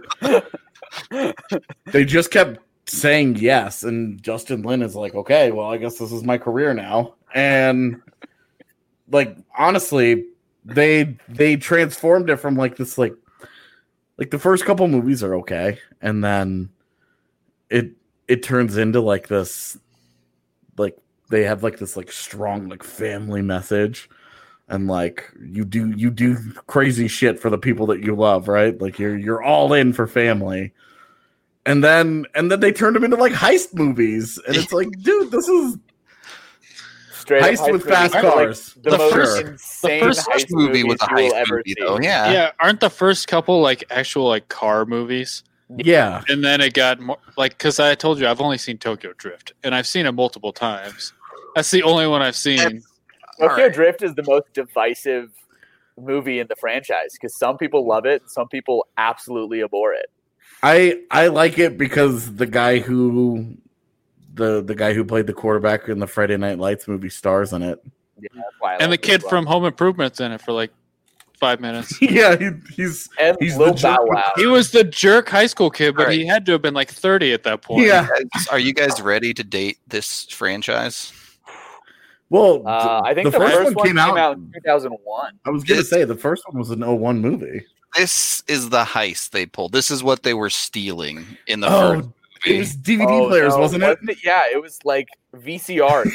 they just kept saying yes. And Justin Lin is like, okay, well, I guess this is my career now. And like, honestly, they they transformed it from like this like like the first couple movies are okay, and then it it turns into like this like they have like this like strong like family message, and like you do you do crazy shit for the people that you love, right? Like you're you're all in for family. And then and then they turned them into like heist movies, and it's like, dude, this is Straight up heist with movie. fast Like, cars. the, The most first- insane the first heist movie movies was a you will heist ever movie, see. though. Yeah. Yeah, aren't the first couple like actual like car movies? Yeah, And then it got more like because I told you I've only seen Tokyo Drift, and I've seen it multiple times. That's the only one I've seen. That's- Tokyo Alright. Drift is the most divisive movie in the franchise because some people love it, some people absolutely abhor it. I I like it because the guy who the the guy who played the quarterback in the Friday Night Lights movie stars in it. Yeah, that's why I And the like kid this from one. Home Improvement's in it for like five minutes. Yeah, he, he's and he's Lil the Bow jerk. Wow. He was the jerk high school kid, but Alright. he had to have been like thirty at that point. Yeah. Guys, are you guys ready to date this franchise? Well, Uh, I think the the, first first, one one came came, out- out in two thousand one. I was gonna This- say the first one was an oh one movie. This is the heist they pulled. This is what they were stealing in the Oh, first it movie. was D V D Oh, players, no, wasn't it? Yeah, it was like V C Rs.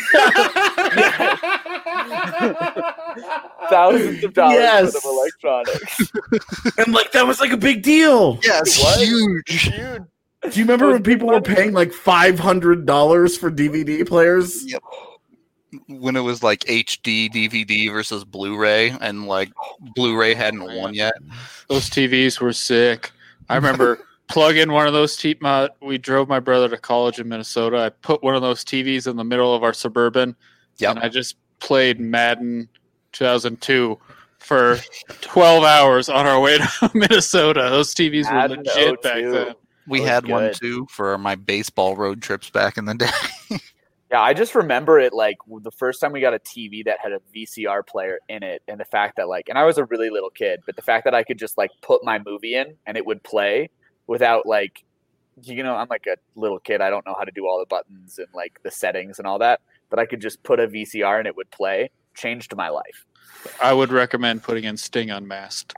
Thousands of dollars Yes. worth of electronics. And like that was like a big deal. Yeah, it's It was huge. Huge. Do you remember It was when people were big money. paying like five hundred dollars for D V D players? Yep. When it was like H D D V D versus Blu-ray, and like Blu-ray hadn't won yet. Those T Vs were sick. I remember plugging one of those T my, we drove my brother to college in Minnesota. I put one of those T Vs in the middle of our Suburban, Yep. and I just played Madden two thousand two for twelve hours on our way to Minnesota. Those T Vs were Madden legit back oh two. then. We That was had one good. too for my baseball road trips back in the day. Yeah, I just remember it like the first time we got a T V that had a V C R player in it, and the fact that like, and I was a really little kid, but the fact that I could just like put my movie in and it would play without like, you know, I'm like a little kid. I don't know how to do all the buttons and like the settings and all that, but I could just put a V C R and it would play. Changed my life. I would recommend putting in Sting Unmasked.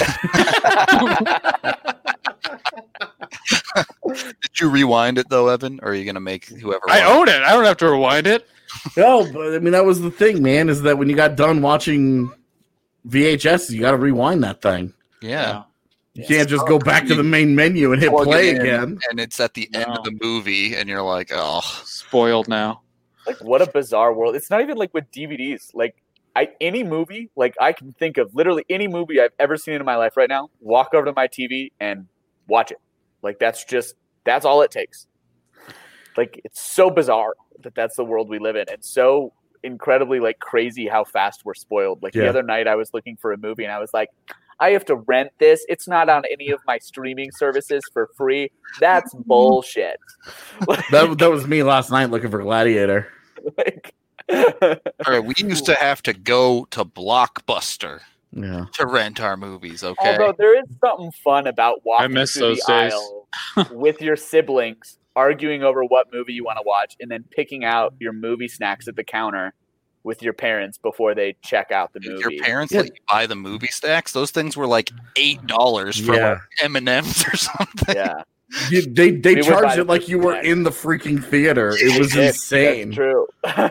Did you rewind it though, Evan? Or are you gonna make whoever? I won? own it. I don't have to rewind it. No, but I mean that was the thing, man. Is that when you got done watching V H S, you got to rewind that thing. Yeah. You can't just go back to the main menu and hit Plug play it in, again. and it's at the end No. of the movie, and you're like, oh, Spoiled now. Like what a bizarre world. It's not even like with D V Ds. Like I any movie, like I can think of literally any movie I've ever seen in my life right now, walk over to my T V and watch it. Like that's just that's all it takes. Like it's so bizarre that that's the world we live in, and so incredibly like crazy how fast we're spoiled. Like Yeah. the other night I was looking for a movie and I was like, I have to rent this. It's not on any of my streaming services for free. That's bullshit. Like, That that was me last night looking for Gladiator. like all right. We used to have to go to Blockbuster Yeah. to rent our movies. Okay. Although there is something fun about walking miss through those the days. aisle with your siblings, arguing over what movie you want to watch, and then picking out your movie snacks at the counter with your parents before they check out the Did movie. your parents Yeah. let you buy the movie stacks? Those things were like eight dollars for Yeah. like M and M's or something. Yeah, You, they they We would buy charged the it like you were snacks. in the freaking theater. It was That's insane. true.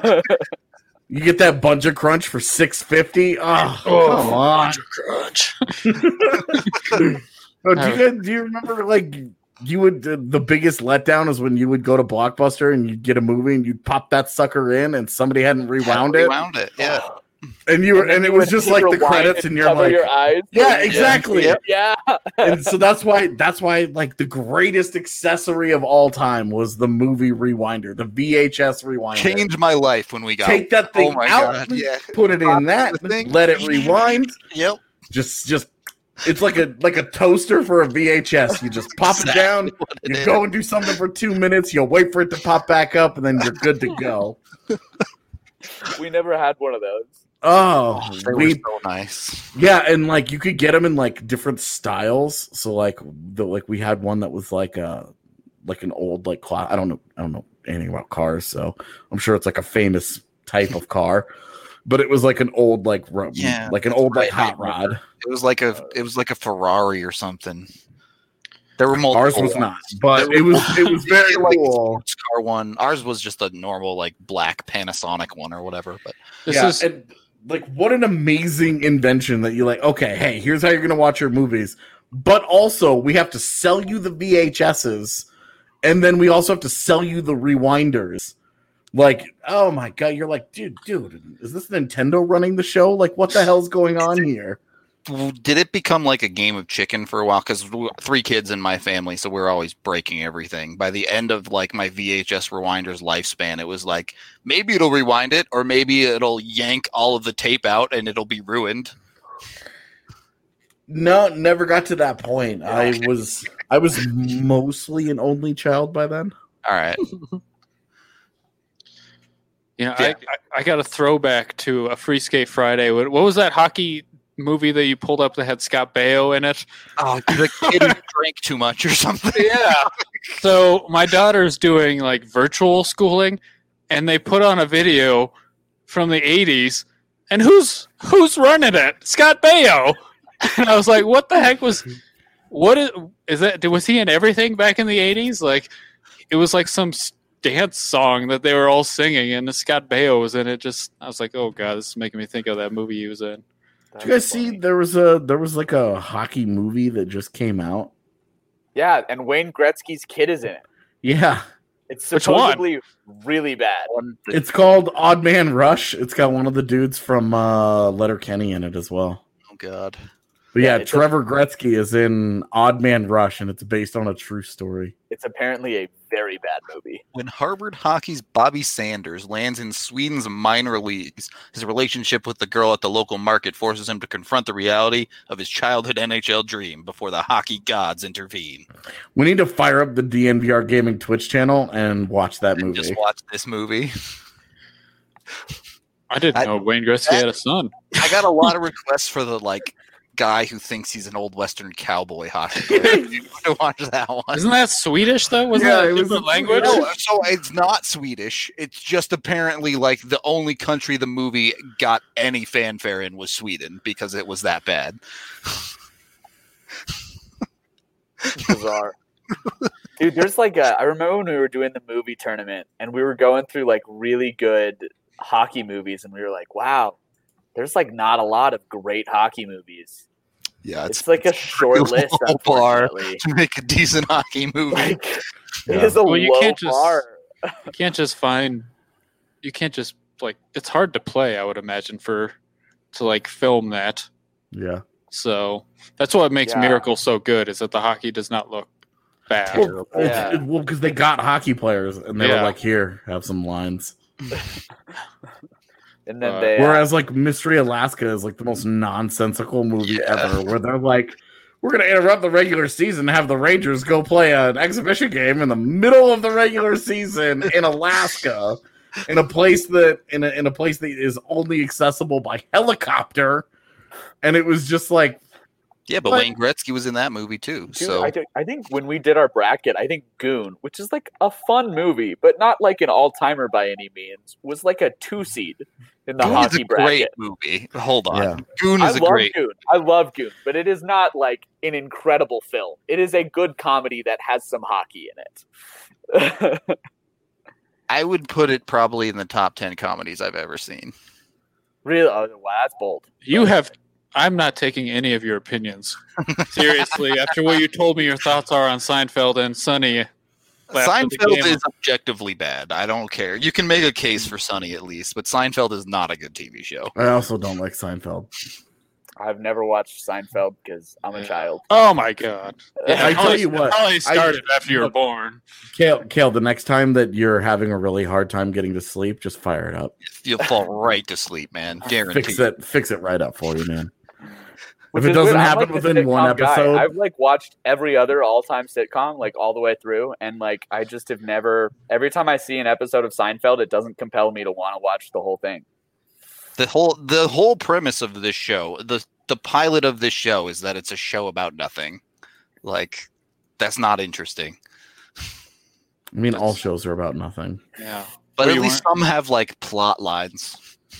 You get that bunch of crunch for six fifty. Oh, come on. Crunch. Oh, do you guys, do you remember like you would uh, the biggest letdown is when you would go to Blockbuster and you'd get a movie and you'd pop that sucker in and somebody hadn't rewound it Rewound it. Yeah. and you were and, then it you was would just like the rewind credits and you're cover like your eyes. yeah exactly Yep. Yeah. and so that's why that's why like the greatest accessory of all time was the movie rewinder, the V H S rewinder. Changed my life when we got. Take that Oh thing my out, god. Yeah. put it in that, the thing. let it rewind. Yep. Just just it's like a like a toaster for a V H S. You just pop it down, What it you is. go and do something for two minutes, you'll wait for it to pop back up, and then you're good to go. We never had one of those. Oh, They were we so nice. yeah, and like you could get them in like different styles. So like the like we had one that was like a like an old like cla- I don't know I don't know anything about cars, so I'm sure it's like a famous type of car. But it was like an old like ro- Yeah, like an old like right. hot rod. It was like a. It was like a Ferrari or something. There were multiple. Ours was ones. not, but There it were was it was very like cool. sports car one. Ours was just a normal like black Panasonic one or whatever. But This yeah, is and like what an amazing invention that you're like, okay, hey, here's how you're gonna watch your movies, but also we have to sell you the V H S's, and then we also have to sell you the rewinders. Like, oh my god, you're like, dude, dude, is this Nintendo running the show? Like, what the hell's going on here? did it become like a game of chicken for a while? Because three kids in my family, so we we're always breaking everything. By the end of like my V H S rewinder's lifespan, it was like maybe it'll rewind it, or maybe it'll yank all of the tape out and it'll be ruined. No, never got to that point. I Okay. was I was mostly an only child by then. All right. You know, Yeah. I, I I got a throwback to a Free Skate Friday. What, what was that hockey movie that you pulled up that had Scott Baio in it? Oh, the kid who drank too much or something. Yeah. So my daughter's doing like virtual schooling, and they put on a video from the eighties, and who's who's running it? Scott Baio. And I was like, what the heck was? What is is that? Was he in everything back in the eighties? Like, it was like some dance song that they were all singing, and Scott Baio was in it. Just, I was like, oh god, this is making me think of that movie he was in. Did you guys see there was a there was like a hockey movie that just came out? Yeah, and Wayne Gretzky's kid is in it. Yeah, It's Which one? supposedly really bad. it's called Odd Man Rush. It's got one of the dudes from uh, Letterkenny in it as well. Oh God. But yeah, Yeah, it's Trevor Gretzky is in Odd Man Rush, and it's based on a true story. It's apparently a very bad movie. When Harvard hockey's Bobby Sanders lands in Sweden's minor leagues, his relationship with the girl at the local market forces him to confront the reality of his childhood N H L dream before the hockey gods intervene. We need to fire up the D N V R Gaming Twitch channel and watch that And movie. just watch this movie. I didn't I- know Wayne Gretzky had a son. I got a lot of requests for the like guy who thinks he's an old Western cowboy hockey player. You need to watch that one. Isn't that Swedish though? Wasn't Yeah, that it a was different a language? No, so it's not Swedish. It's just apparently like the only country the movie got any fanfare in was Sweden because it was that bad. Bizarre. Dude, there's like a, I remember when we were doing the movie tournament and we were going through like really good hockey movies and we were like, wow, there's like not a lot of great hockey movies. Yeah, It's, like a short pretty list, low bar unfortunately. to make a decent hockey movie. Like, Yeah. it is a Well, you low can't just- bar. You can't just find. You can't just like. It's hard to play. I would imagine for to like film that. Yeah. So that's what makes Yeah. Miracle so good. Is that the hockey does not look bad. Well, Yeah. it's- it- well, because they got hockey players and they Yeah. were like, "Here, have some lines." And then Uh, they, uh, Whereas like Mystery Alaska is like the most nonsensical movie Yeah. ever, where they're like, "We're gonna interrupt the regular season and have the Rangers go play an exhibition game in the middle of the regular season in Alaska, in a place that in a, in a place that is only accessible by helicopter," and it was just like, Yeah, but But- Wayne Gretzky was in that movie too. Dude, so I, think, I think when we did our bracket, I think Goon, which is like a fun movie, but not like an all timer by any means, was like a two seed in the Goon is hockey a great bracket. movie. Hold on, Yeah. Goon I is a love great. Goon. I love Goon, but it is not like an incredible film. It is a good comedy that has some hockey in it. I would put it probably in the top ten comedies I've ever seen. Really? Oh, wow, that's bold. You have. I'm not taking any of your opinions seriously. After what you told me, your thoughts are on Seinfeld and Sunny. Last of the Seinfeld game. is objectively bad. I don't care. You can make a case for Sunny at least, but Seinfeld is not a good T V show. I also don't like Seinfeld. I've never watched Seinfeld because I'm a Yeah. child. Oh my god! I it tell probably- you what, it probably started after you were look, born. Kale, Kale, the next time that you're having a really hard time getting to sleep, just fire it up. You'll fall right to sleep, man. Guaranteed. Fix it, fix it right up for you, man. Which If it is doesn't weird. I'm happen like the within one sitcom guy. episode- I've like watched every other all-time sitcom like all the way through, and like I just have never. Every time I see an episode of Seinfeld, it doesn't compel me to want to watch the whole thing. The whole the whole premise of this show, the the pilot of this show is that it's a show about nothing. Like that's not interesting. I mean, all shows are about nothing. Yeah, But Well, at you least some have like plot lines.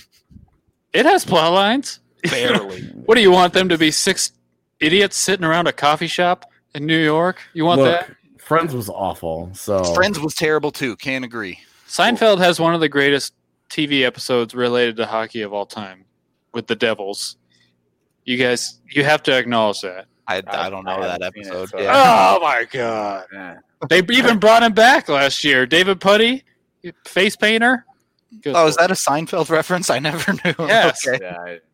it has plot lines. Barely. What do you want them to be? Six idiots sitting around a coffee shop in New York? You want Look, that? Friends was awful. So Friends was terrible too. Can't agree. Seinfeld has one of the greatest T V episodes related to hockey of all time with the Devils. You guys, you have to acknowledge that. I, I I- don't I know that haven't seen it, episode. so- Yeah. Oh my god! Yeah. They even brought him back last year. David Putty, face painter. Good Oh, is lord. that a Seinfeld reference? I never knew. Yes. Okay. Yeah, I,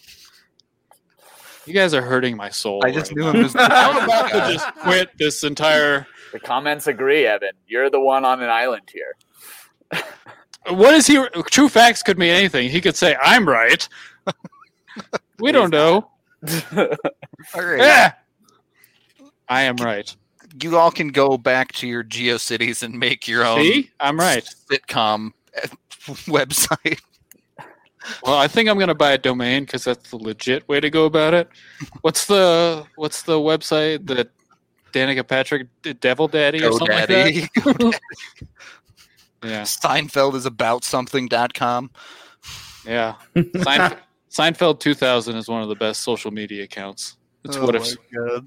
You guys are hurting my soul. I just right knew now. him as I'm about to just quit this entire. the comments agree, Evan. You're the one on an island here. What is he? True facts could mean anything. He could say, "I'm right." We don't know. All right. Yeah. I am right. You all can go back to your GeoCities and make your own See, I'm right. sitcom website. Well, I think I'm gonna buy a domain because that's the legit way to go about it. What's the What's the website that Danica Patrick did, Devil Daddy or something like that? GoDaddy. Yeah, Steinfeld is about something dot com. yeah. Seinf- Seinfeld two thousand is one of the best social media accounts. It's Oh what my if God.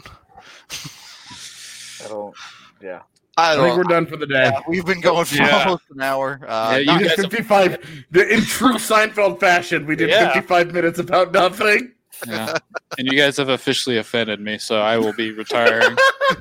I don't. Yeah. I I don't think we're done for the day. Yeah, we've been going for Yeah. almost an hour. Uh, Yeah, you not- We did guys have- fifty-five the- in true Seinfeld fashion. We did Yeah. fifty-five minutes about nothing. yeah. And you guys have officially offended me, so I will be retiring.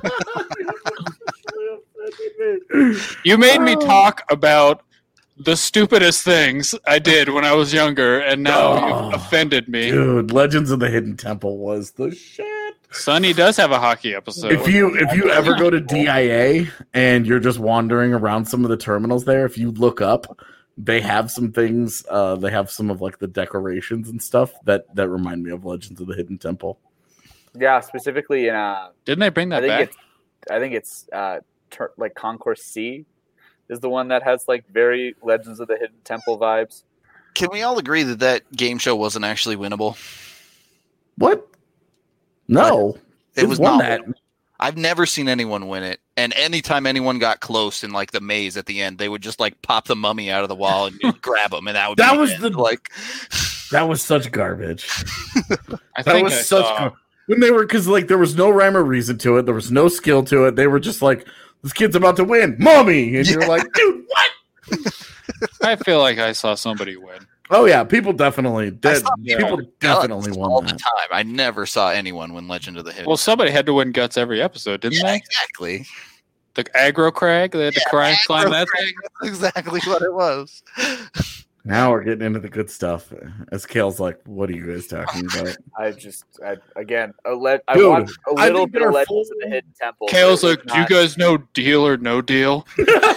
You made me talk about the stupidest things I did when I was younger, and now Oh, you've offended me. Dude, Legends of the Hidden Temple was the shit. Sonny does have a hockey episode. If you if you ever go to D I A and you're just wandering around some of the terminals there, if you look up, they have some things. Uh, they have some of like the decorations and stuff that that remind me of Legends of the Hidden Temple. Yeah. Specifically in uh, Didn't they bring I that think back? it's I think it's uh, ter- like Concourse C is the one that has like very Legends of the Hidden Temple vibes. Can we all agree that that game show wasn't actually winnable? What? No, It Who was won not. that. winnable. I've never seen anyone win it. And anytime anyone got close in like the maze at the end, they would just like pop the mummy out of the wall and you'd grab them, and that would That be was it. the- like That was such garbage. I That think was I such saw- gar- when they were because like there was no rhyme or reason to it. There was no skill to it. They were just like, "This kid's about to win, mommy," and you're like, "Dude, what?" I feel like I saw somebody win. Oh yeah, people definitely I did. saw People Guts definitely all won the that. time. I never saw anyone win Legend of the Hidden. Well, somebody had to win guts every episode, didn't yeah, they? exactly. The aggro crag, they had to Yeah, climb, climb that Aggro thing. That's exactly what it was. Now we're getting into the good stuff. As Kale's like, "What are you guys talking about?" I just I, again a le- I Dude, watched a I little think bit there of are Legends full- of the Hidden Temple. Kale's but it like, was do you not- guys know Deal or No Deal?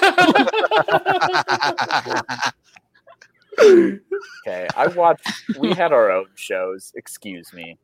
Okay, I watched. We had our own shows. Excuse me.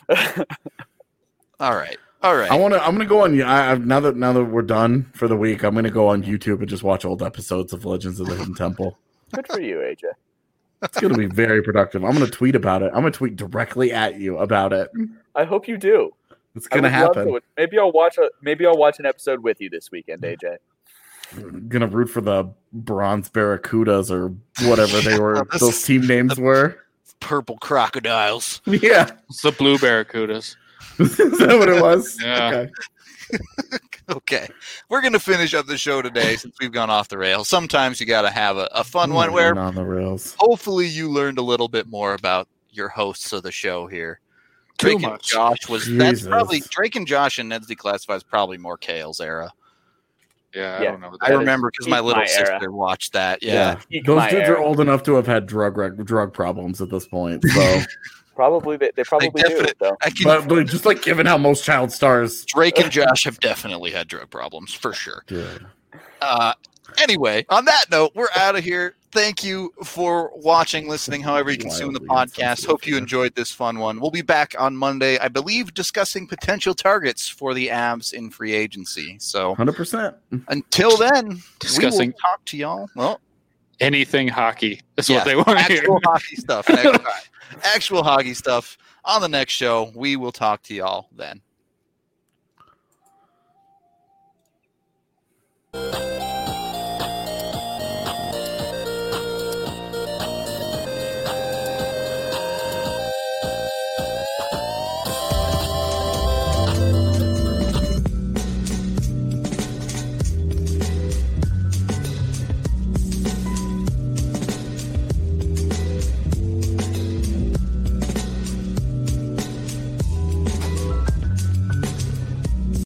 All right. All right. I want to. I'm gonna go on. I, I, now that now that we're done for the week, I'm gonna go on YouTube and just watch old episodes of Legends of the Hidden Temple. Good for you, A J. It's gonna be very productive. I'm gonna tweet about it. I'm gonna tweet directly at you about it. I hope you do. It's I gonna would love happen. to. Maybe I'll watch a. Maybe I'll watch an episode with you this weekend, A J. I'm gonna root for the Bronze Barracudas or whatever they were. This those is- team names were. Purple crocodiles. Yeah, It's the Blue Barracudas. is that what it was? Yeah. Okay. Okay. We're going to finish up the show today since we've gone off the rails. Sometimes you got to have a, a fun Ooh, one where on the rails. hopefully you learned a little bit more about your hosts of the show here. Too Drake and much. Josh was that's Jesus. probably Drake and Josh and Ned's Declassified is probably more Kale's era. Yeah, I Yeah. don't know. I That is remember because my peak little my era. sister watched that. Yeah, Yeah. Peak those my dudes era. are old enough to have had drug rec- drug problems at this point. So, Probably they, they probably do definite- though. I can, but, but just like given how most child stars, Drake and Josh have definitely had drug problems for sure. dude. Uh, anyway, on that note, we're out of here. Thank you for watching, listening, however you consume the Wildly podcast. insensitive Hope you here. enjoyed this fun one. We'll be back on Monday, I believe, discussing potential targets for the Avs in free agency. So Hundred percent. until then, Discussing- we will talk to y'all. Well, Anything hockey is yeah, what they want to hear. actual hockey stuff next time. Actual hockey stuff on the next show. We will talk to y'all then.